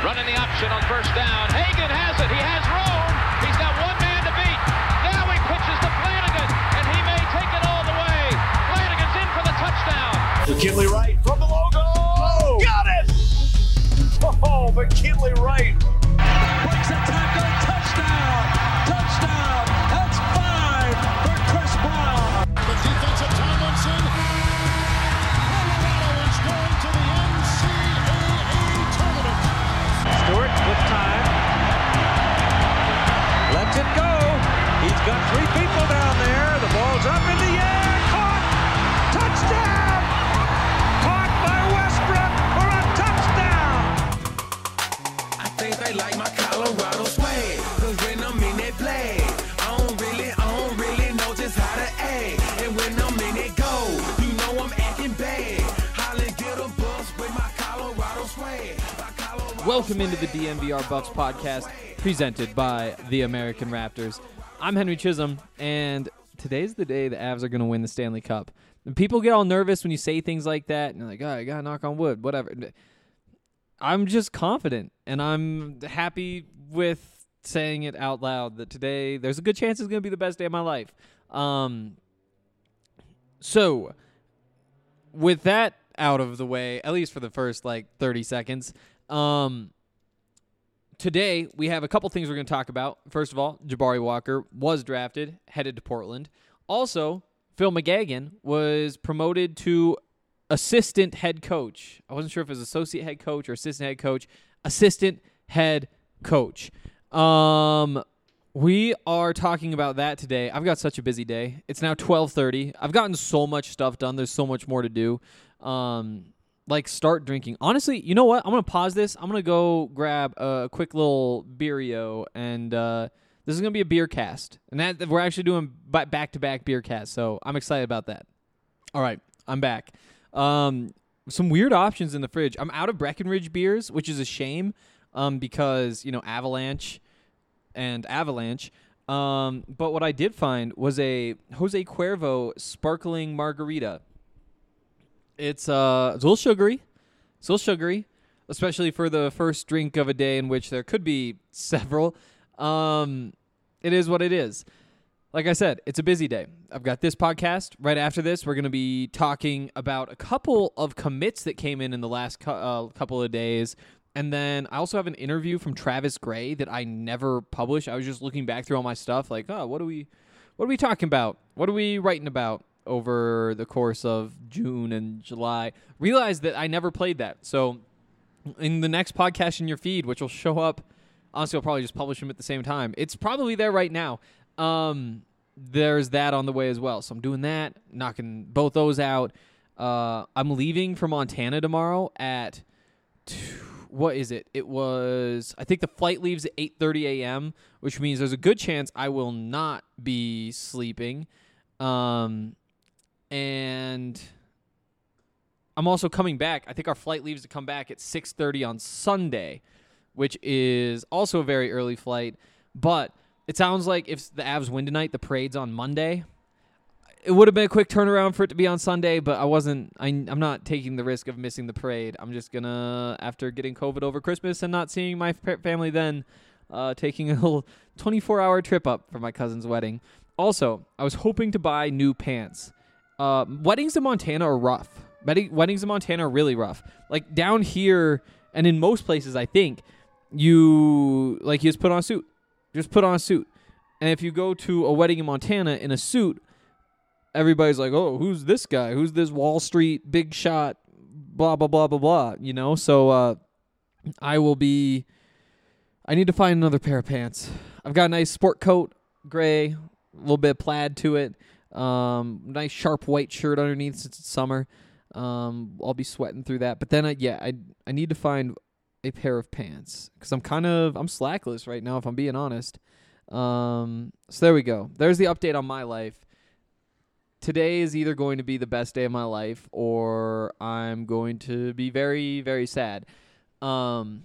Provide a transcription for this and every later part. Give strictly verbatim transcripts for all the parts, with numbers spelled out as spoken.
Running the option on first down. Hagan has it. He has room. He's got one man to beat. Now he pitches to Flanagan, and he may take it all the way. Flanagan's in for the touchdown. McKinley Wright from the logo. Oh, got it! Oh, McKinley Wright. Breaks a tackle. Touchdown. Touchdown. That's five for Chris Brown. The defensive Tomlinson. Colorado is going to the N C double A tournament. Stewart with time. Lets it go. He's got three people down there. The ball's up in the air. Caught. Touchdown. Caught by Westbrook for a touchdown. I think they like my Colorado swag. Cause when I'm in that play, I don't really, I don't really know just how to act. And when I'm in it go, you know I'm acting bad. Holly get a bus with my Colorado swag. My Colorado Welcome into the swag. D N V R Bucks podcast, presented by the American Raptors. I'm Henry Chisholm, and today's the day the Avs are going to win the Stanley Cup. And people get all nervous when you say things like that, and they're like, oh, I got to knock on wood, whatever. I'm just confident, and I'm happy with saying it out loud that today there's a good chance it's going to be the best day of my life. Um, so, with that out of the way, at least for the first, like, thirty seconds, um... today, we have a couple things we're going to talk about. First of all, Jabari Walker was drafted, headed to Portland. Also, Phil McGagan was promoted to assistant head coach. I wasn't sure if it was associate head coach or assistant head coach. Assistant head coach. Um, we are talking about that today. I've got such a busy day. It's now twelve thirty. I've gotten so much stuff done. There's so much more to do. Um... Like, start drinking. Honestly, you know what? I'm going to pause this. I'm going to go grab a quick little beerio, and uh, this is going to be a beer cast. And that we're actually doing back-to-back beer casts, so I'm excited about that. All right, I'm back. Um, some weird options in the fridge. I'm out of Breckenridge beers, which is a shame um, because, you know, Avalanche and Avalanche. Um, but what I did find was a Jose Cuervo sparkling margarita. It's uh, it's a little sugary. It's a little sugary, especially for the first drink of a day in which there could be several. Um, it is what it is. Like I said, it's a busy day. I've got this podcast. Right after this, we're going to be talking about a couple of commits that came in in the last cu- uh, couple of days. And then I also have an interview from Travis Gray that I never published. I was just looking back through all my stuff like, oh, what are we, what are we talking about? What are we writing about over the course of June and July? Realized that I never played that. So in the next podcast in your feed, which will show up, honestly, I'll probably just publish them at the same time. It's probably there right now. Um, there's that on the way as well. So I'm doing that, knocking both those out. Uh, I'm leaving for Montana tomorrow at, two, what is it? It was, I think the flight leaves at eight thirty a.m., which means there's a good chance I will not be sleeping. Um... And I'm also coming back. I think our flight leaves to come back at six thirty on Sunday, which is also a very early flight. But it sounds like if the Avs win tonight, the parade's on Monday. It would have been a quick turnaround for it to be on Sunday, but I wasn't. I, I'm not taking the risk of missing the parade. I'm just gonna, after getting COVID over Christmas and not seeing my family then, uh, taking a little twenty-four hour trip up for my cousin's wedding. Also, I was hoping to buy new pants. Uh, weddings in Montana are rough. Wedding, weddings in Montana are really rough. Like, down here, and in most places, I think, you, like, you just put on a suit. Just put on a suit. And if you go to a wedding in Montana in a suit, everybody's like, oh, who's this guy? Who's this Wall Street big shot? Blah, blah, blah, blah, blah. You know? So, uh, I will be, I need to find another pair of pants. I've got a nice sport coat, gray, a little bit of plaid to it. Um, nice sharp white shirt underneath since it's summer. Um, I'll be sweating through that. But then, I, yeah, I I need to find a pair of pants because I'm kind of I'm slackless right now, if I'm being honest. Um, so there we go. There's the update on my life. Today is either going to be the best day of my life, or I'm going to be very, very sad. Um,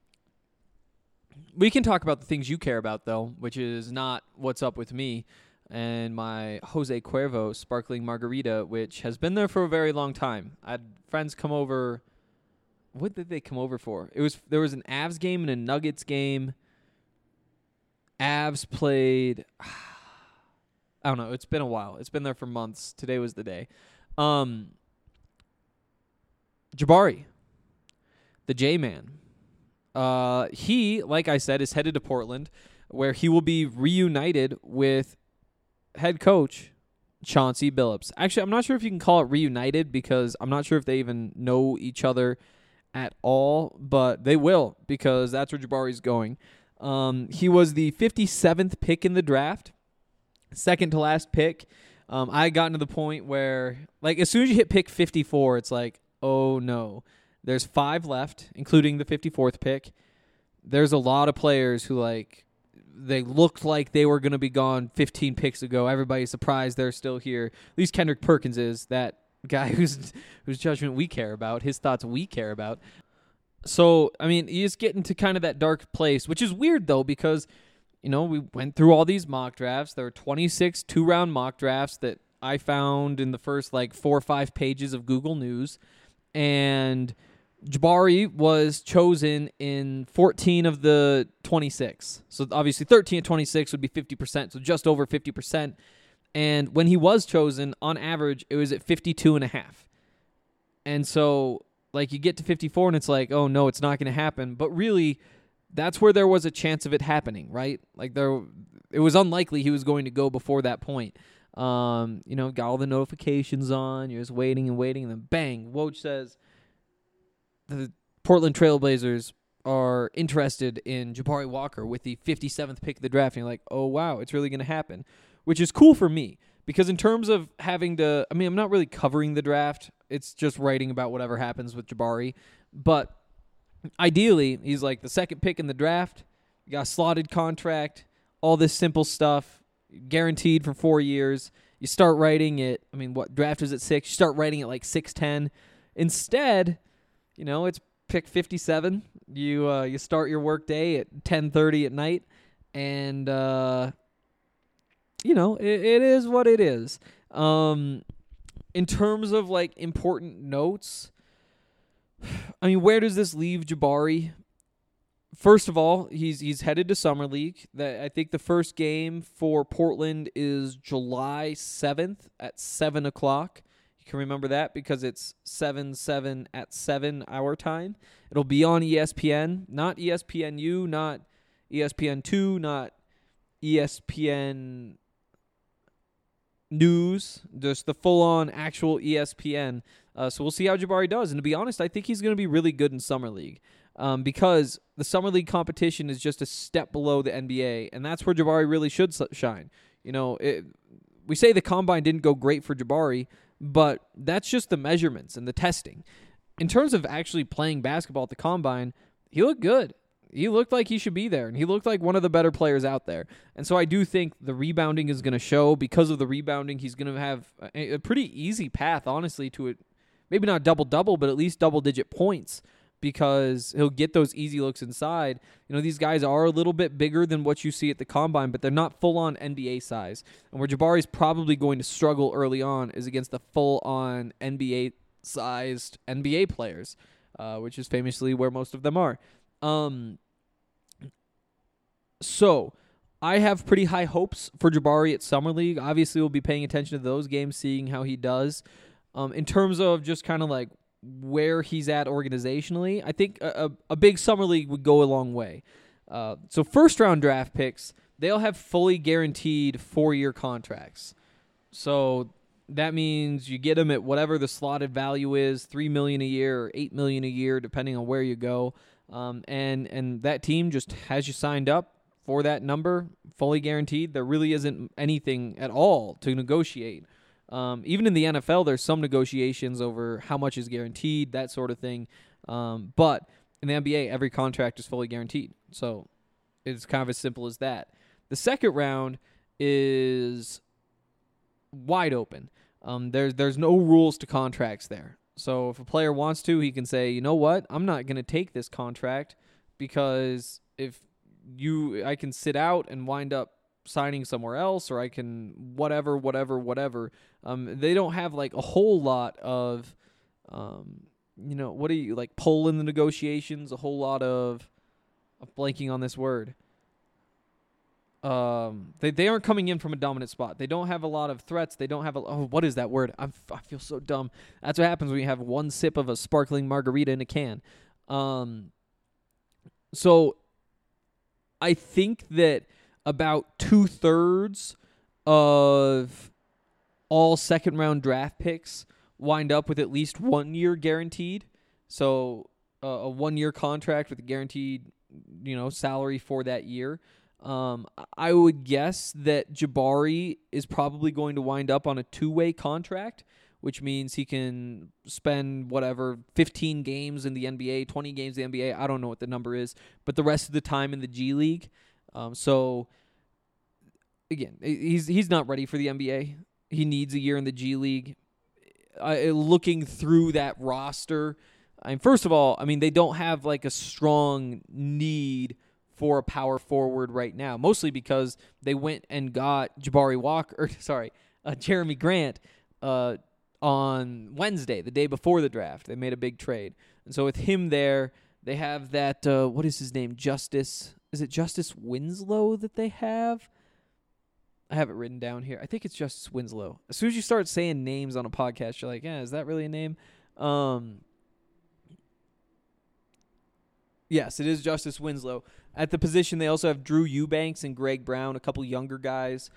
we can talk about the things you care about, though, which is not what's up with me and my Jose Cuervo sparkling margarita, which has been there for a very long time. I had friends come over what did they come over for? It was there was an Avs game and a Nuggets game. Avs played. I don't know. It's been a while. It's been there for months. Today was the day. Um, Jabari, the J-Man. Uh, he, like I said, is headed to Portland, where he will be reunited with head coach Chauncey Billups. Actually, I'm not sure if you can call it reunited because I'm not sure if they even know each other at all, but they will because that's where Jabari's going. Um, he was the fifty-seventh pick in the draft, second to last pick. Um, I gotten to the point where, like, as soon as you hit pick fifty-four, it's like, oh no. There's five left, including the fifty-fourth pick. There's a lot of players who, like, they looked like they were going to be gone fifteen picks ago. Everybody's surprised they're still here. At least Kendrick Perkins is, that guy whose whose judgment we care about, his thoughts we care about. So, I mean, you just get into kind of that dark place, which is weird, though, because, you know, we went through all these mock drafts. There were twenty-six two-round mock drafts that I found in the first, like, four or five pages of Google News. And Jabari was chosen in fourteen of the twenty-six. So, obviously, thirteen of twenty-six would be fifty percent, so just over fifty percent. And when he was chosen, on average, it was at fifty-two and a half. And so, like, you get to fifty-four and it's like, oh, no, it's not going to happen. But really, that's where there was a chance of it happening, right? Like, there, it was unlikely he was going to go before that point. Um, you know, got all the notifications on. You're just waiting and waiting. And then, bang, Woj says the Portland Trailblazers are interested in Jabari Walker with the fifty-seventh pick of the draft. And you're like, oh, wow, it's really going to happen, which is cool for me. Because in terms of having to, I mean, I'm not really covering the draft. It's just writing about whatever happens with Jabari. But ideally, he's like the second pick in the draft. You got a slotted contract, all this simple stuff, guaranteed for four years. You start writing it. I mean, what draft is at six? You start writing it like six ten. Instead, you know, it's pick fifty-seven. You uh, you start your work day at ten thirty at night, and uh, you know, it, it is what it is. Um, in terms of, like, important notes, I mean, where does this leave Jabari? First of all, he's he's headed to Summer League. That I think the first game for Portland is July seventh at seven o'clock. You can remember that because it's seven seven at seven our time. It'll be on E S P N, not E S P N U, not E S P N two, not E S P N News, just the full-on actual E S P N. Uh, so we'll see how Jabari does. And to be honest, I think he's going to be really good in Summer League um, because the Summer League competition is just a step below the N B A, and that's where Jabari really should shine. You know, it, we say the Combine didn't go great for Jabari, but that's just the measurements and the testing. In terms of actually playing basketball at the Combine, he looked good. He looked like he should be there, and he looked like one of the better players out there. And so I do think the rebounding is going to show. Because of the rebounding, he's going to have a, a pretty easy path, honestly, to it. Maybe not double-double, but at least double-digit points because he'll get those easy looks inside. You know, these guys are a little bit bigger than what you see at the Combine, but they're not full-on N B A size. And where Jabari's probably going to struggle early on is against the full-on N B A-sized N B A players, uh, which is famously where most of them are. Um, so I have pretty high hopes for Jabari at Summer League. Obviously, we'll be paying attention to those games, seeing how he does. Um, in terms of just kind of like where he's at organizationally, I think a, a, a big Summer League would go a long way. Uh, so first round draft picks, they'll have fully guaranteed four-year contracts. So that means you get them at whatever the slotted value is, three million dollars a year or eight million dollars a year, depending on where you go. Um, and, and that team just has you signed up for that number, fully guaranteed. There really isn't anything at all to negotiate. Um, even in the N F L, there's some negotiations over how much is guaranteed, that sort of thing. Um, but in the N B A, every contract is fully guaranteed. So it's kind of as simple as that. The second round is wide open. Um, there's there's no rules to contracts there. So if a player wants to, he can say, you know what, I'm not going to take this contract because if you, I can sit out and wind up signing somewhere else, or I can whatever, whatever, whatever. Um, they don't have like a whole lot of um, you know, what do you, like, pull in the negotiations, a whole lot of, I'm blanking on this word. Um, they they aren't coming in from a dominant spot. They don't have a lot of threats. They don't have a, oh, what is that word? I'm, I feel so dumb. That's what happens when you have one sip of a sparkling margarita in a can. Um, so I think that about two-thirds of all second-round draft picks wind up with at least one year guaranteed. So uh, a one-year contract with a guaranteed, you know, salary for that year. Um, I would guess that Jabari is probably going to wind up on a two-way contract, which means he can spend whatever fifteen games in the N B A, twenty games in the N B A. I don't know what the number is, but the rest of the time in the G League. Um, so again, he's he's not ready for the N B A. He needs a year in the G League. Uh, looking through that roster, I mean, first of all, I mean they don't have like a strong need for a power forward right now, mostly because they went and got Jabari Walker, or sorry, uh, Jeremy Grant uh, on Wednesday, the day before the draft. They made a big trade. And so with him there, they have that, uh, what is his name, Justice, is it Justice Winslow that they have? I have it written down here. I think it's Justice Winslow. As soon as you start saying names on a podcast, you're like, yeah, is that really a name? Um, yes, it is Justice Winslow. At the position, they also have Drew Eubanks and Greg Brown, a couple younger guys.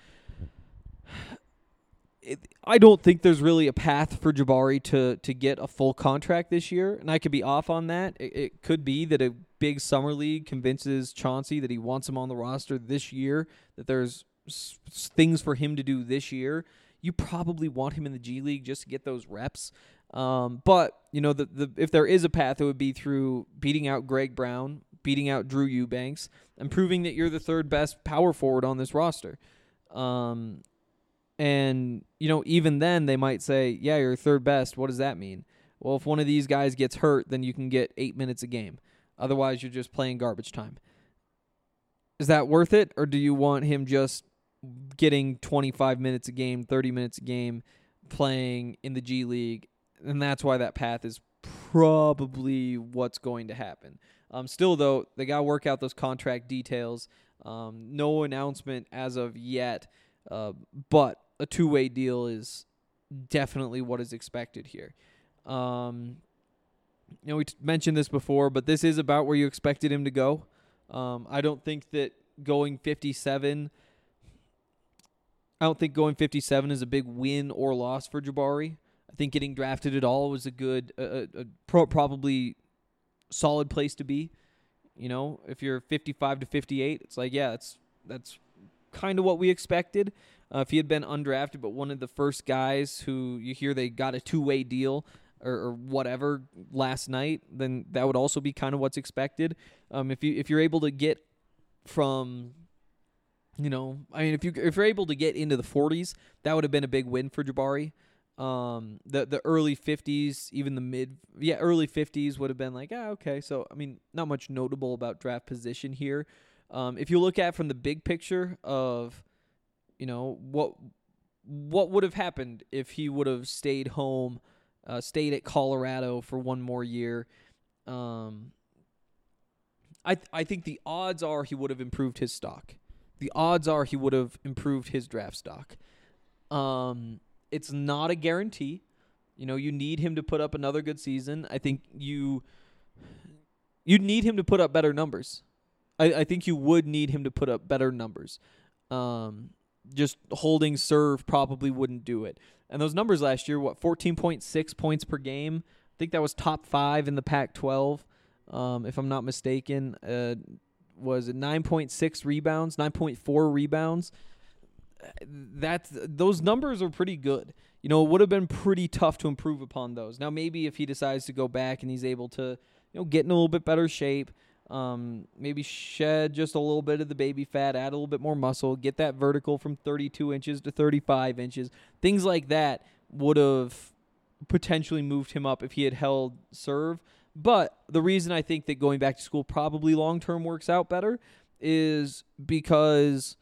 It, I don't think there's really a path for Jabari to to get a full contract this year, and I could be off on that. It, it could be that a big summer league convinces Chauncey that he wants him on the roster this year, that there's s- things for him to do this year. You probably want him in the G League just to get those reps. Um, but, you know, the, the if there is a path, it would be through beating out Greg Brown, beating out Drew Eubanks, and proving that you're the third best power forward on this roster. Um, and, you know, even then they might say, yeah, you're third best. What does that mean? Well, if one of these guys gets hurt, then you can get eight minutes a game. Otherwise, you're just playing garbage time. Is that worth it, or do you want him just getting twenty-five minutes a game, thirty minutes a game, playing in the G League? And that's why that path is probably what's going to happen. Um, still, though, they got to work out those contract details. Um, no announcement as of yet, uh, but a two-way deal is definitely what is expected here. Um, you know, we t- mentioned this before, but this is about where you expected him to go. Um, I don't think that going fifty-seven, I don't think going fifty-seven is a big win or loss for Jabari. I think getting drafted at all was a good, uh, a pro- probably solid place to be. You know, if you're fifty-five to fifty-eight, it's like, yeah, that's that's kind of what we expected. Uh, if he had been undrafted, but one of the first guys who you hear they got a two-way deal or, or whatever last night, then that would also be kind of what's expected. Um, if you if you're able to get from, you know, I mean, if you if you're able to get into the forties, that would have been a big win for Jabari. Um, the the early fifties, even the mid, yeah, early fifties would have been like, ah, okay. So, I mean, not much notable about draft position here. Um, if you look at from the big picture of, you know, what what would have happened if he would have stayed home, uh, stayed at Colorado for one more year, um, I th- I think the odds are he would have improved his stock. The odds are he would have improved his draft stock. Um. It's not a guarantee. You know, you need him to put up another good season. I think you you need him to put up better numbers. I, I think you would need him to put up better numbers. Um, just holding serve probably wouldn't do it. And those numbers last year, what, fourteen point six points per game? I think that was top five in the Pac twelve, um, if I'm not mistaken. Uh, was it nine point six rebounds, nine point four rebounds? That's those numbers are pretty good. You know, it would have been pretty tough to improve upon those. Now, maybe if he decides to go back and he's able to, you know, get in a little bit better shape, um, maybe shed just a little bit of the baby fat, add a little bit more muscle, get that vertical from thirty-two inches to thirty-five inches, things like that would have potentially moved him up if he had held serve. But the reason I think that going back to school probably long-term works out better is because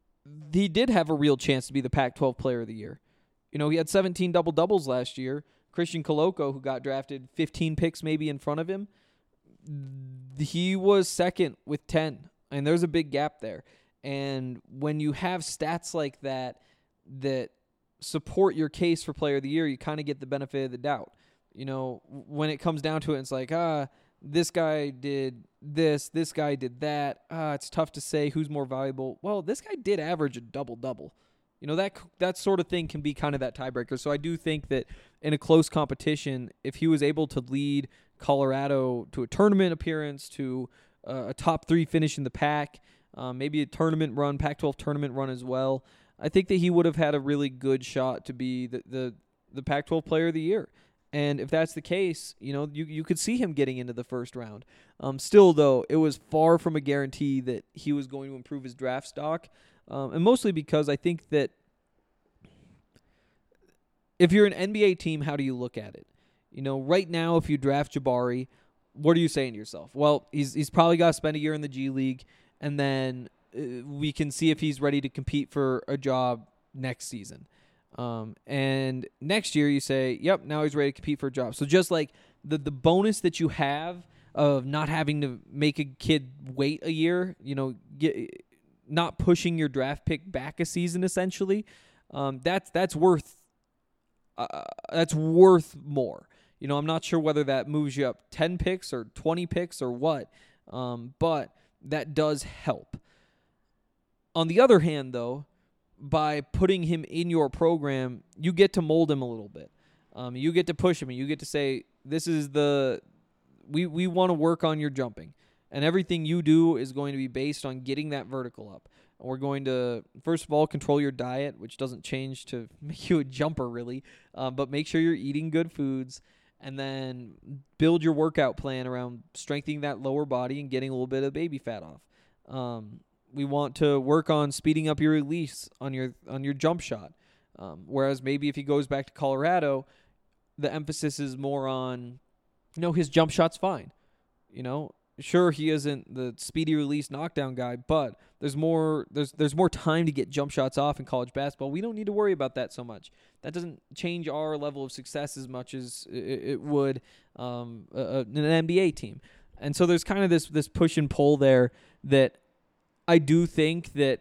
he did have a real chance to be the Pac twelve player of the year. You know, he had seventeen double-doubles last year, Christian Coloco, who got drafted fifteen picks maybe in front of him, he was second with ten. And there's a big gap there. And when you have stats like that that support your case for player of the year, you kind of get the benefit of the doubt. You know, when it comes down to it, it's like, ah, this guy did this, this guy did that. Ah, it's tough to say who's more valuable. Well, this guy did average a double-double. You know, that that sort of thing can be kind of that tiebreaker. So I do think that in a close competition, if he was able to lead Colorado to a tournament appearance, to uh, a top three finish in the pack, um, maybe a tournament run, Pac twelve tournament run as well, I think that he would have had a really good shot to be the, the, the Pac twelve player of the year. And if that's the case, you know, you you could see him getting into the first round. Um, still, though, it was far from a guarantee that he was going to improve his draft stock. Um, and mostly because I think that if you're an N B A team, how do you look at it? You know, right now, if you draft Jabari, what are you saying to yourself? Well, he's he's probably got to spend a year in the G League, and then uh, we can see if he's ready to compete for a job next season. Um, and next year you say, yep, now he's ready to compete for a job. So just like the, the bonus that you have of not having to make a kid wait a year, you know, get, not pushing your draft pick back a season essentially, um, that's, that's worth, uh, that's worth more. You know, I'm not sure whether that moves you up ten picks or twenty picks or what, um, but that does help. On the other hand, though, by putting him in your program, you get to mold him a little bit. Um, you get to push him, and you get to say, this is the, we, we want to work on your jumping. And everything you do is going to be based on getting that vertical up. And we're going to, first of all, control your diet, which doesn't change to make you a jumper, really. Um, but make sure you're eating good foods. And then build your workout plan around strengthening that lower body and getting a little bit of baby fat off. Um, We want to work on speeding up your release on your on your jump shot. Um, whereas maybe if he goes back to Colorado, the emphasis is more on, you know, his jump shot's fine. You know, sure, he isn't the speedy release knockdown guy, but there's more there's there's more time to get jump shots off in college basketball. We don't need to worry about that so much. That doesn't change our level of success as much as it, it would um, a, an N B A team. And so there's kind of this this push and pull there that I do think that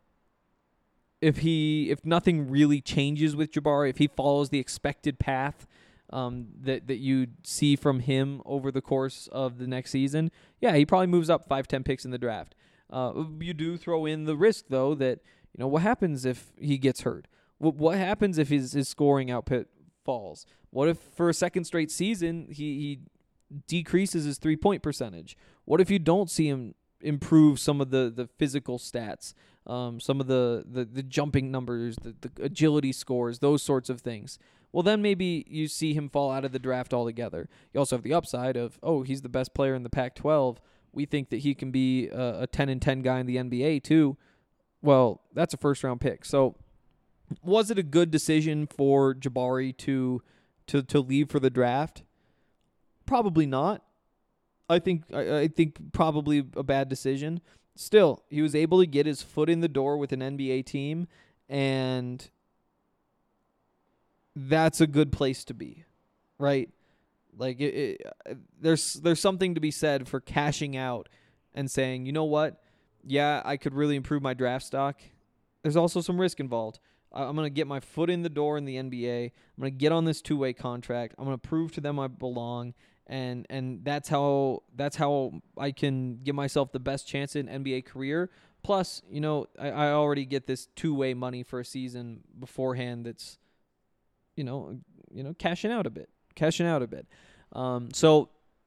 if he, if nothing really changes with Jabari, if he follows the expected path um, that that you see from him over the course of the next season, yeah, he probably moves up five, ten picks in the draft. Uh, you do throw in the risk though that, you know, what happens if he gets hurt? What what happens if his his scoring output falls? What if for a second straight season he, he decreases his three point percentage? What if you don't see him improve some of the, the physical stats, um, some of the, the, the jumping numbers, the, the agility scores, those sorts of things? Well, then maybe you see him fall out of the draft altogether. You also have the upside of, oh, he's the best player in the Pac twelve. We think that he can be a, a ten and ten guy in the N B A too. Well, that's a first-round pick. So was it a good decision for Jabari to to to leave for the draft? Probably not. I think I, I think probably a bad decision. Still, he was able to get his foot in the door with an N B A team, and that's a good place to be, right? Like it, it, there's there's something to be said for cashing out and saying, you know what? Yeah, I could really improve my draft stock. There's also some risk involved. I'm going to get my foot in the door in the N B A. I'm going to get on this two-way contract. I'm going to prove to them I belong. And and that's how that's how I can give myself the best chance in N B A career. Plus, you know, I, I already get this two-way money for a season beforehand. That's, you know, you know, cashing out a bit, cashing out a bit. Um, so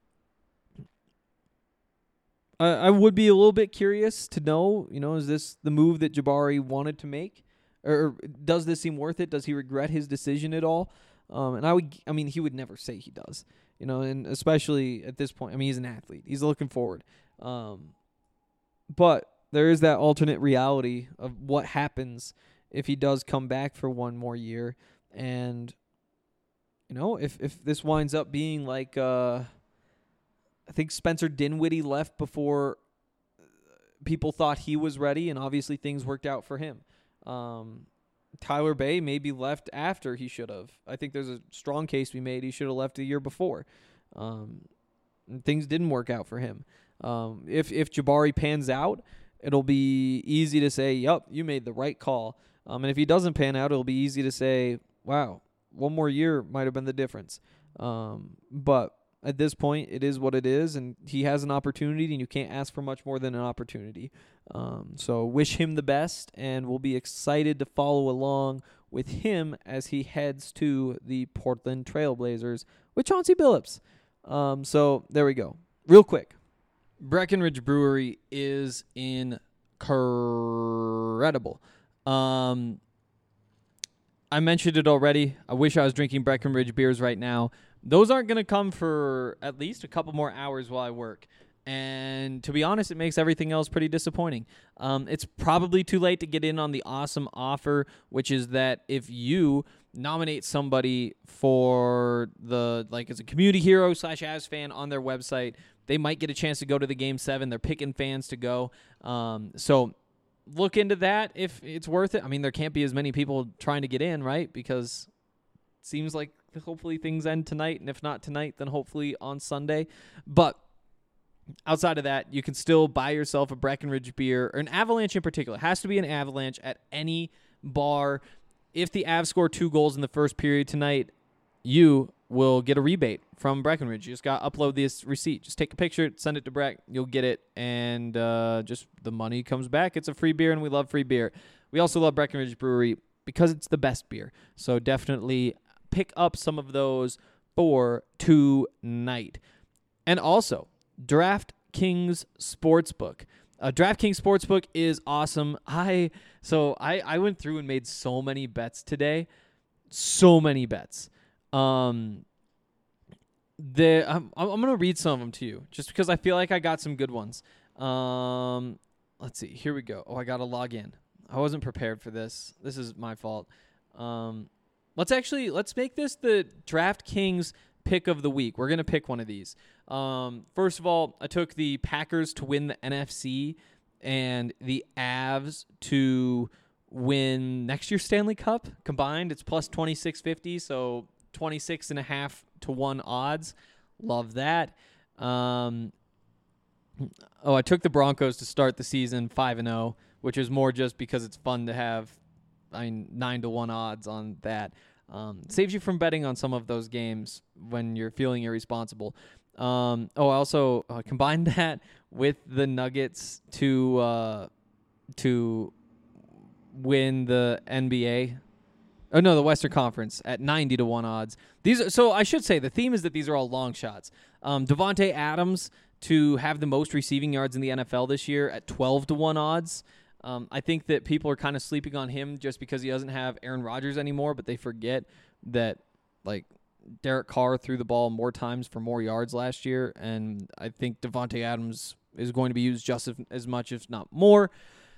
I, I would be a little bit curious to know, you know, is this the move that Jabari wanted to make, or does this seem worth it? Does he regret his decision at all? Um, and I would, I mean, he would never say he does. You know, and especially at this point, I mean, he's an athlete. He's looking forward. Um, but there is that alternate reality of what happens if he does come back for one more year. And, you know, if, if this winds up being like, uh, I think Spencer Dinwiddie left before people thought he was ready, and obviously things worked out for him. Um, Tyler Bay maybe left after he should have. I think there's a strong case we made he should have left a year before. Um, things didn't work out for him. Um, if if Jabari pans out, it'll be easy to say, "Yup, you made the right call." Um, and if he doesn't pan out, it'll be easy to say, "Wow, one more year might have been the difference." Um, but at this point, it is what it is, and he has an opportunity, and you can't ask for much more than an opportunity. Um, so wish him the best, and we'll be excited to follow along with him as he heads to the Portland Trailblazers with Chauncey Billups. Um, so there we go. Real quick, Breckenridge Brewery is incredible. Um, I mentioned it already. I wish I was drinking Breckenridge beers right now. Those aren't going to come for at least a couple more hours while I work. And to be honest, it makes everything else pretty disappointing. Um, it's probably too late to get in on the awesome offer, which is that if you nominate somebody for the, like, as a community hero slash Avs fan on their website, they might get a chance to go to the Game seven. They're picking fans to go. Um, so look into that if it's worth it. I mean, there can't be as many people trying to get in, right? Because it seems like hopefully things end tonight, and if not tonight, then hopefully on Sunday. But outside of that, you can still buy yourself a Breckenridge beer, or an Avalanche in particular. It has to be an Avalanche at any bar. If the Avs score two goals in the first period tonight, you will get a rebate from Breckenridge. You just got to upload this receipt. Just take a picture, send it to Breck. You'll get it, and uh, just the money comes back. It's a free beer, and we love free beer. We also love Breckenridge Brewery because it's the best beer. So definitely pick up some of those for tonight. And also, DraftKings Sportsbook. Uh, DraftKings Sportsbook is awesome. I so I, I went through and made so many bets today. So many bets. Um, the I'm I'm gonna read some of them to you just because I feel like I got some good ones. Um, let's see. Here we go. Oh, I gotta log in. I wasn't prepared for this. This is my fault. Um, let's actually let's make this the DraftKings pick of the week. We're gonna pick one of these. Um, first of all, I took the Packers to win the N F C and the Avs to win next year's Stanley Cup combined. It's plus twenty-six fifty, so twenty-six and a half to one odds. Love that. Um, oh, I took the Broncos to start the season five and oh, which is more just because it's fun to have I mean, nine to one odds on that. Um, saves you from betting on some of those games when you're feeling irresponsible. Um, oh, I also uh, combined that with the Nuggets to uh, to win the N B A. Oh no, the Western Conference at ninety to one odds. These are, so I should say the theme is that these are all long shots. Um, Devontae Adams to have the most receiving yards in the N F L this year at twelve to one odds. Um, I think that people are kind of sleeping on him just because he doesn't have Aaron Rodgers anymore, but they forget that like Derek Carr threw the ball more times for more yards last year, and I think Devontae Adams is going to be used just as, as much, if not more.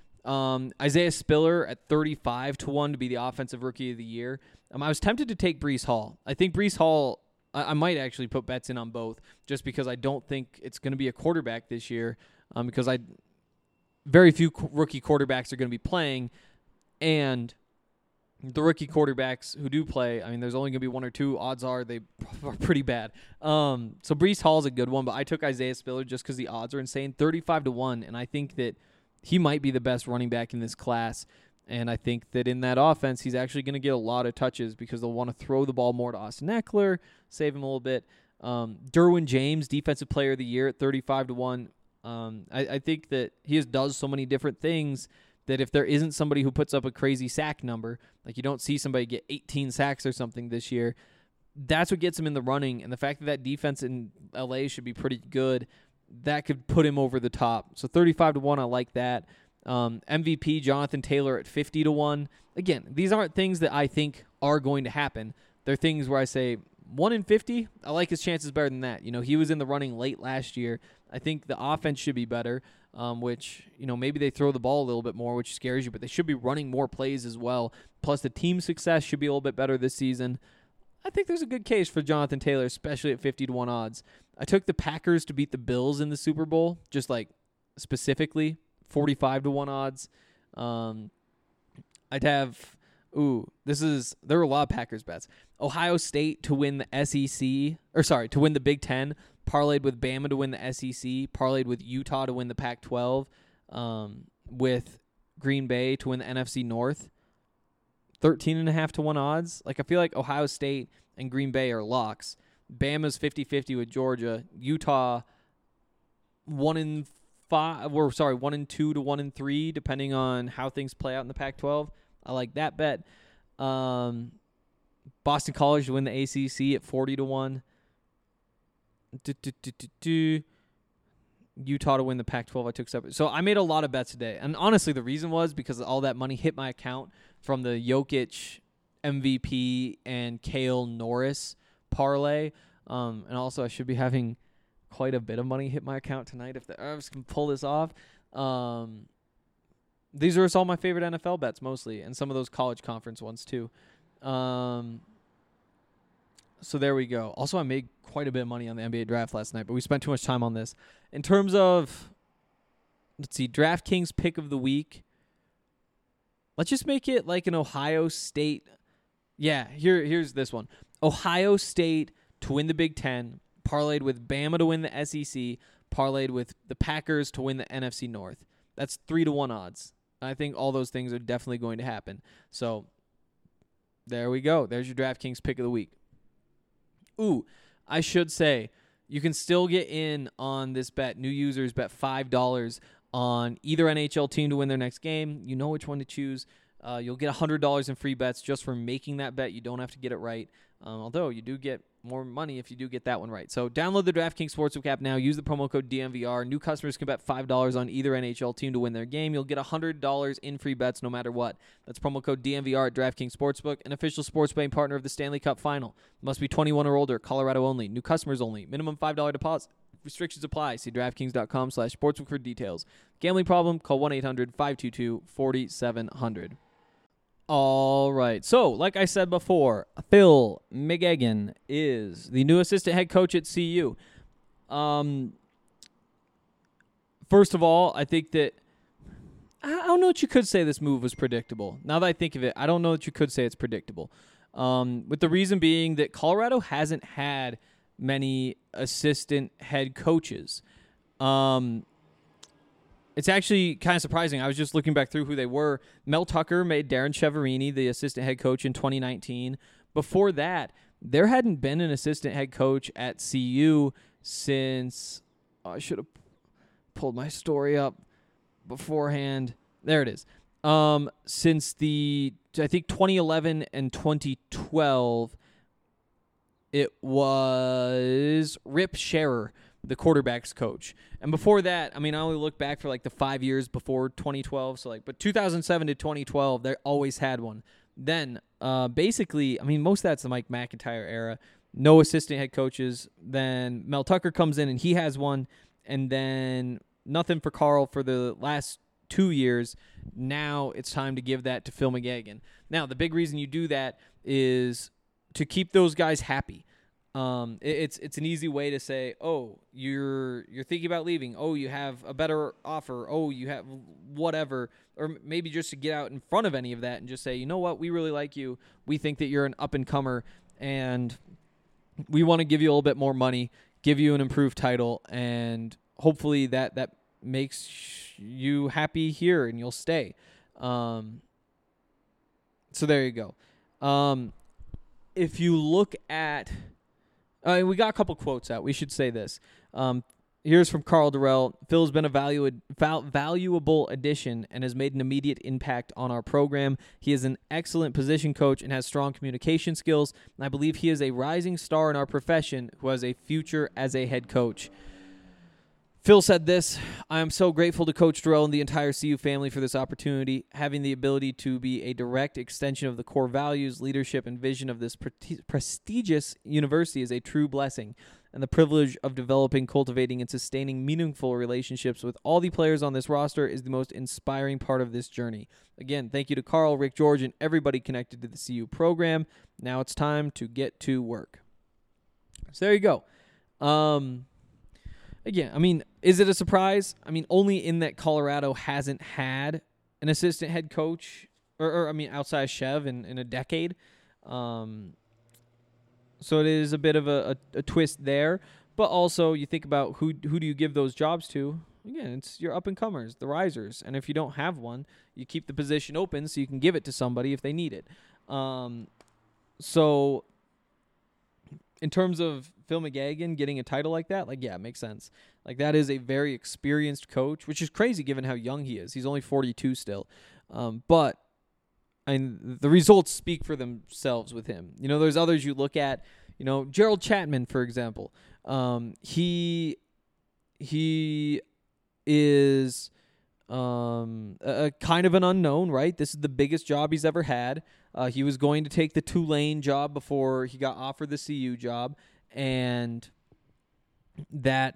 Um, Isaiah Spiller at thirty-five to one to be the offensive rookie of the year. Um, I was tempted to take Breece Hall. I think Breece Hall, I, I might actually put bets in on both just because I don't think it's going to be a quarterback this year um, because I very few qu- rookie quarterbacks are going to be playing, and the rookie quarterbacks who do play, I mean, there's only going to be one or two. Odds are they are pretty bad. Um, so Breece Hall is a good one, but I took Isaiah Spiller just because the odds are insane, thirty-five to one, and I think that he might be the best running back in this class, and I think that in that offense, he's actually going to get a lot of touches because they'll want to throw the ball more to Austin Eckler, save him a little bit. Um, Derwin James, Defensive Player of the Year at thirty-five to one. Um, I, I think that he just does so many different things that if there isn't somebody who puts up a crazy sack number, like you don't see somebody get eighteen sacks or something this year, that's what gets him in the running. And the fact that that defense in L A should be pretty good, that could put him over the top. So thirty-five to one, I like that. Um, M V P Jonathan Taylor at fifty to one. Again, these aren't things that I think are going to happen. They're things where I say one in fifty, I like his chances better than that. You know, he was in the running late last year. I think the offense should be better, um, which, you know, maybe they throw the ball a little bit more, which scares you, but they should be running more plays as well. Plus, the team success should be a little bit better this season. I think there's a good case for Jonathan Taylor, especially at fifty to one odds. I took the Packers to beat the Bills in the Super Bowl, just like specifically, forty-five to one odds. Um, I'd have, Ooh, this is there were a lot of Packers bets. Ohio State to win the S E C, or sorry, to win the Big Ten, parlayed with Bama to win the S E C, parlayed with Utah to win the Pac twelve, um, with Green Bay to win the N F C North. thirteen and a half to one odds. Like, I feel like Ohio State and Green Bay are locks. Bama's fifty-fifty with Georgia. Utah, one in five, or sorry, one in two to one in three, depending on how things play out in the Pac twelve. I like that bet. Um, Boston College to win the A C C at forty to one. Do, do, do, do, do. Utah to win the Pac twelve. I took separate. So I made a lot of bets today. And honestly, the reason was because all that money hit my account from the Jokic M V P and Kale Norris parlay. Um, and also, I should be having quite a bit of money hit my account tonight if the Avs can pull this off. Um, these are all my favorite N F L bets mostly, and some of those college conference ones too. Um, so there we go. Also, I made quite a bit of money on the N B A draft last night, but we spent too much time on this. In terms of, let's see, DraftKings pick of the week, let's just make it like an Ohio State. Yeah, here, here's this one. Ohio State to win the Big Ten, parlayed with Bama to win the S E C, parlayed with the Packers to win the N F C North. That's three to one odds. I think all those things are definitely going to happen. So there we go. There's your DraftKings pick of the week. Ooh, I should say, you can still get in on this bet. New users bet five dollars on either N H L team to win their next game. You know which one to choose. Uh, you'll get one hundred dollars in free bets just for making that bet. You don't have to get it right, um, although you do get more money if you do get that one right. So download the DraftKings Sportsbook app now. Use the promo code D M V R. New customers can bet five dollars on either N H L team to win their game. You'll get one hundred dollars in free bets no matter what. That's promo code D M V R at DraftKings Sportsbook, an official sports betting partner of the Stanley Cup Final. Must be twenty-one or older. Colorado only. New customers only. Minimum five dollars deposit. Restrictions apply. See DraftKings.com slash sportsbook for details. Gambling problem? Call one eight hundred five two two four seven zero zero. All right. So, like I said before, Phil McGeoghan is the new assistant head coach at C U. Um, first of all, I think that I don't know that you could say this move was predictable. Now that I think of it, I don't know that you could say it's predictable. Um, with the reason being that Colorado hasn't had many assistant head coaches. Um, It's actually kind of surprising. I was just looking back through who they were. Mel Tucker made Darren Chiaverini the assistant head coach in twenty nineteen. Before that, there hadn't been an assistant head coach at C U since oh, I should have pulled my story up beforehand. There it is. Um, since the I think twenty eleven and twenty twelve, it was Rip Scherer, the quarterback's coach. And before that, I mean, I only look back for like the five years before twenty twelve. So like, but two thousand seven to twenty twelve, they always had one. Then, uh, basically, I mean, most of that's the Mike McIntyre era. No assistant head coaches. Then Mel Tucker comes in and he has one. And then nothing for Carl for the last two years. Now it's time to give that to Phil McGeoghan. Now, the big reason you do that is to keep those guys happy. Um, it, it's it's an easy way to say, oh, you're you're thinking about leaving. Oh, you have a better offer. Oh, you have whatever. Or maybe just to get out in front of any of that and just say, you know what, we really like you. We think that you're an up-and-comer, and we want to give you a little bit more money, give you an improved title, and hopefully that, that makes you happy here and you'll stay. Um, so there you go. Um, if you look at... Uh, we got a couple quotes out. We should say this. Um, here's from Carl Durrell. Phil has been a valu- val- valuable addition and has made an immediate impact on our program. He is an excellent position coach and has strong communication skills. And I believe he is a rising star in our profession who has a future as a head coach. Phil said this: I am so grateful to Coach Durrell and the entire C U family for this opportunity. Having the ability to be a direct extension of the core values, leadership, and vision of this pre- prestigious university is a true blessing. And the privilege of developing, cultivating, and sustaining meaningful relationships with all the players on this roster is the most inspiring part of this journey. Again, thank you to Carl, Rick George, and everybody connected to the C U program. Now it's time to get to work. So there you go. Um... Again, I mean, is it a surprise? I mean, only in that Colorado hasn't had an assistant head coach or, or I mean, outside Chev in, in a decade. Um, so it is a bit of a, a, a twist there. But also, you think about who who do you give those jobs to? Again, it's your up-and-comers, the risers. And if you don't have one, you keep the position open so you can give it to somebody if they need it. Um, so in terms of Phil McGagan getting a title like that, like, yeah, it makes sense. Like, that is a very experienced coach, which is crazy given how young he is. He's only forty-two still. Um, but I mean, the results speak for themselves with him. You know, there's others you look at, you know, Gerald Chapman, for example. Um, he he is um, a, a kind of an unknown, right? This is the biggest job he's ever had. Uh, he was going to take the Tulane job before he got offered the C U job, and that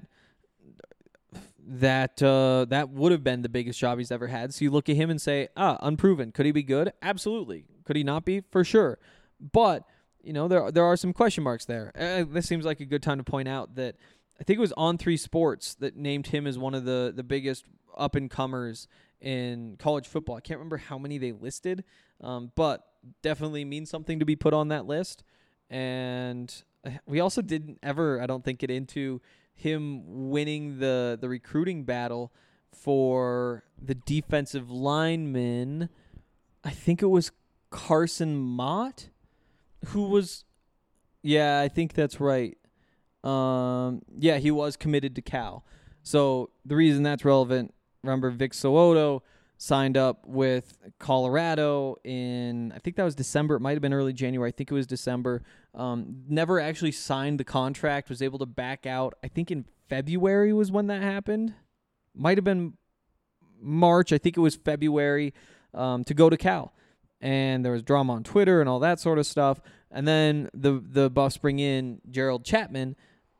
that uh, that would have been the biggest job he's ever had. So you look at him and say, ah, unproven. Could he be good? Absolutely. Could he not be? For sure. But you know, there there are some question marks there. Uh, this seems like a good time to point out that I think it was On three Sports that named him as one of the, the biggest up-and-comers in college football. I can't remember how many they listed, um, but definitely means something to be put on that list. And we also didn't ever, I don't think, get into him winning the, the recruiting battle for the defensive lineman. I think it was Carson Mott. Who was, yeah, I think that's right. Um, yeah, he was committed to Cal. So the reason that's relevant, remember Vic So'oto signed up with Colorado in, I think that was December. It might have been early January. I think it was December. Um, never actually signed the contract, was able to back out. I think in February was when that happened. Might have been March. I think it was February um, to go to Cal. And there was drama on Twitter and all that sort of stuff. And then the the Buffs bring in Gerald Chapman,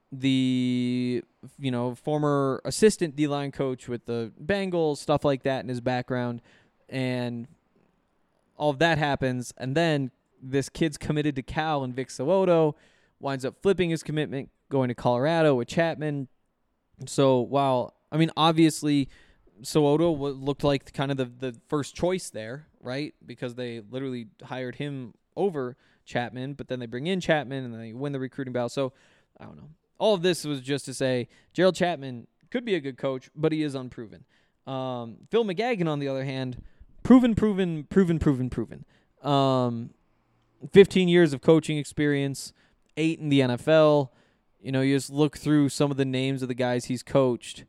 the you know former assistant D-line coach with the Bengals, stuff like that in his background. And all of that happens. And then this kid's committed to Cal, and Vic So'oto winds up flipping his commitment, going to Colorado with Chapman. So while, I mean, obviously So'oto looked like kind of the, the first choice there, right? Because they literally hired him over Chapman, but then they bring in Chapman and they win the recruiting battle. So, I don't know. All of this was just to say Gerald Chapman could be a good coach, but he is unproven. Um, Phil McGagan, on the other hand, proven, proven, proven, proven, proven. Um, fifteen years of coaching experience, eight in the N F L. You know, you just look through some of the names of the guys he's coached.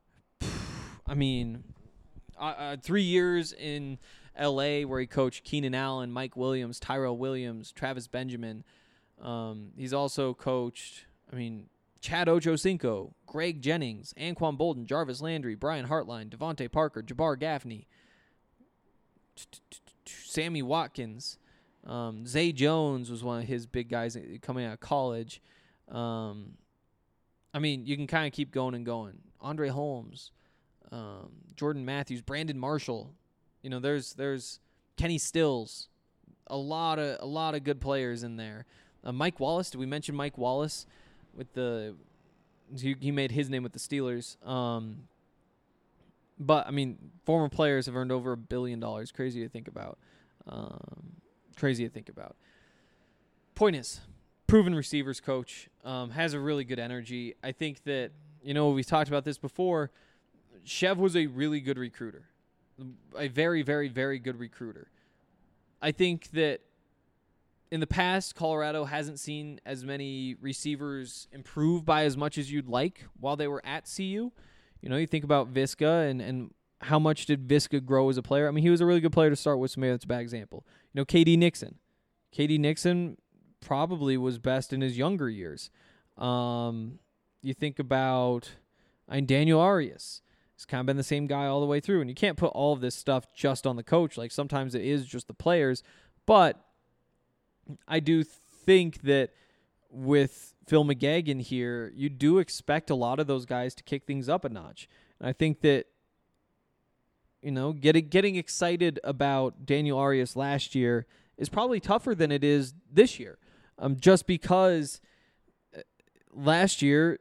I mean, uh, uh, three years in L A where he coached Keenan Allen, Mike Williams, Tyrell Williams, Travis Benjamin. Um, he's also coached, I mean, Chad Ochocinco, Greg Jennings, Anquan Bolden, Jarvis Landry, Brian Hartline, Devontae Parker, Jabbar Gaffney, Sammy Watkins. Um, Zay Jones was one of his big guys coming out of college. Um, I mean, you can kind of keep going and going. Andre Holmes, um, Jordan Matthews, Brandon Marshall. You know, there's there's Kenny Stills, a lot of a lot of good players in there. Uh, Mike Wallace, did we mention Mike Wallace with the? He, he made his name with the Steelers. Um, but I mean, former players have earned over a billion dollars. Crazy to think about. Um, crazy to think about. Point is, proven receivers coach, um, has a really good energy. I think that, you know, we've talked about this before. Chev was a really good recruiter. A very, very, very good recruiter. I think that in the past, Colorado hasn't seen as many receivers improve by as much as you'd like while they were at C U. You know, you think about Visca and, and how much did Visca grow as a player? I mean, he was a really good player to start with, so maybe that's a bad example. You know, K D Nixon. K D Nixon probably was best in his younger years. Um, you think about I mean, Daniel Arias. He's kind of been the same guy all the way through. And you can't put all of this stuff just on the coach. Like, sometimes it is just the players. But I do think that with Phil McGagan here, you do expect a lot of those guys to kick things up a notch. And I think that, you know, getting getting excited about Daniel Arias last year is probably tougher than it is this year. Um, just because last year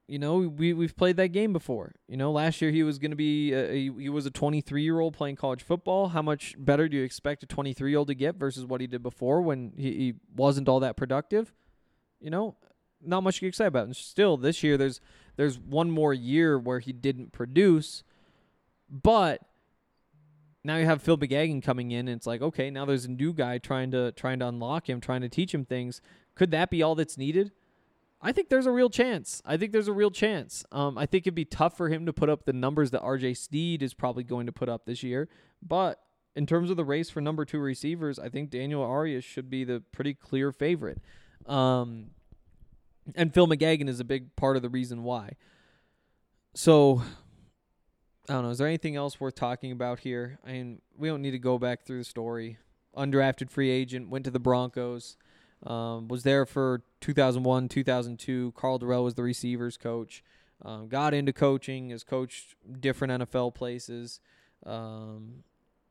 you know, we we've played that game before. You know, last year he was going to be a, he, he was a twenty-three-year-old playing college football. How much better do you expect a twenty-three-year-old to get versus what he did before when he, he wasn't all that productive? You know, not much to get excited about. And still, this year there's there's one more year where he didn't produce, but now you have Phil McGagan coming in, and it's like, okay, now there's a new guy trying to trying to unlock him, trying to teach him things. Could that be all that's needed? I think there's a real chance. I think there's a real chance. Um, I think it'd be tough for him to put up the numbers that R J Sneed is probably going to put up this year. But in terms of the race for number two receivers, I think Daniel Arias should be the pretty clear favorite. Um, and Phil McGagan is a big part of the reason why. So, I don't know. Is there anything else worth talking about here? I mean, we don't need to go back through the story. Undrafted free agent, went to the Broncos. Um, was there for two thousand one, two thousand two. Carl Durrell was the receivers coach. Um, got into coaching, has coached different N F L places. Um,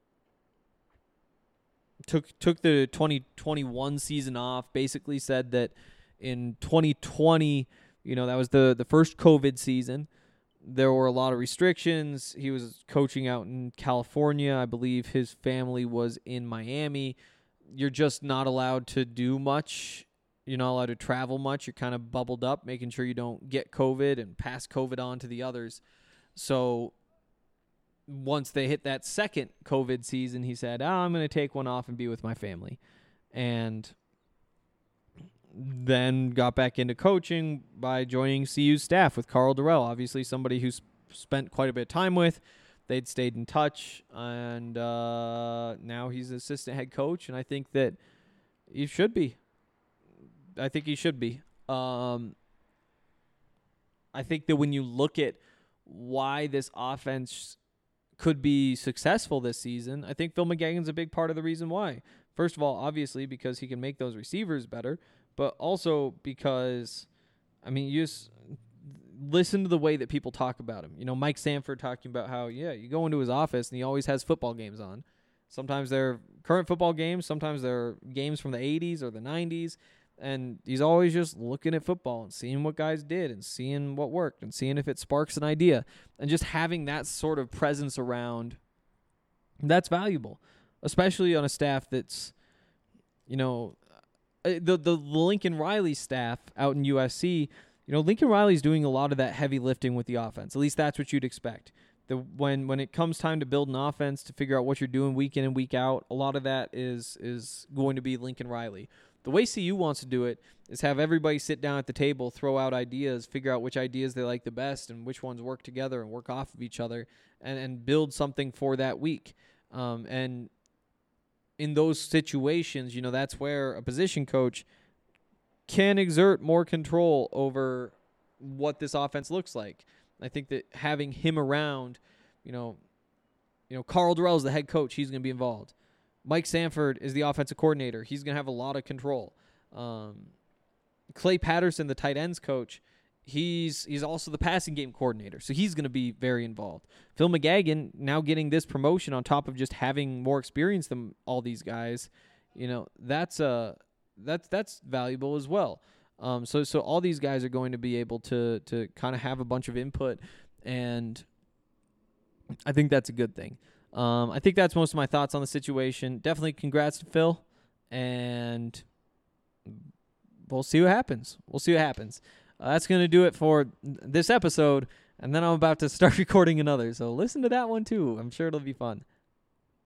took took the twenty twenty-one season off. Basically said that in twenty twenty, you know, that was the, the first COVID season. There were a lot of restrictions. He was coaching out in California. I believe his family was in Miami. You're just not allowed to do much. You're not allowed to travel much. You're kind of bubbled up, making sure you don't get COVID and pass COVID on to the others. So once they hit that second COVID season, he said, oh, I'm going to take one off and be with my family. And then got back into coaching by joining C U's staff with Carl Durrell, obviously somebody who's spent quite a bit of time with. They'd stayed in touch, and uh, now he's an assistant head coach, and I think that he should be. I think he should be. Um, I think that when you look at why this offense could be successful this season, I think Phil McGagan's a big part of the reason why. First of all, obviously, because he can make those receivers better, but also because, I mean, you just listen to the way that people talk about him. You know, Mike Sanford talking about how, yeah, you go into his office and he always has football games on. Sometimes they're current football games. Sometimes they're games from the eighties or the nineties. And he's always just looking at football and seeing what guys did and seeing what worked and seeing if it sparks an idea. And just having that sort of presence around, that's valuable, especially on a staff that's, you know, the the Lincoln Riley staff out in U S C. You know, Lincoln Riley's doing a lot of that heavy lifting with the offense. At least that's what you'd expect. The when when it comes time to build an offense, to figure out what you're doing week in and week out, a lot of that is is going to be Lincoln Riley. The way C U wants to do it is have everybody sit down at the table, throw out ideas, figure out which ideas they like the best and which ones work together and work off of each other, and, and build something for that week. Um, and in those situations, you know, that's where a position coach can exert more control over what this offense looks like. I think that having him around, you know, you know, Carl Durrell is the head coach. He's going to be involved. Mike Sanford is the offensive coordinator. He's going to have a lot of control. Um, Clay Patterson, the tight ends coach, he's he's also the passing game coordinator, so he's going to be very involved. Phil McGagan, now getting this promotion on top of just having more experience than all these guys, you know, that's a that's that's valuable as well. Um, so so all these guys are going to be able to to kind of have a bunch of input, and I think that's a good thing. Um, I think that's most of my thoughts on the situation. Definitely congrats to Phil, and we'll see what happens. We'll see what happens. Uh, that's going to do it for this episode, and then I'm about to start recording another, so listen to that one too. I'm sure it'll be fun.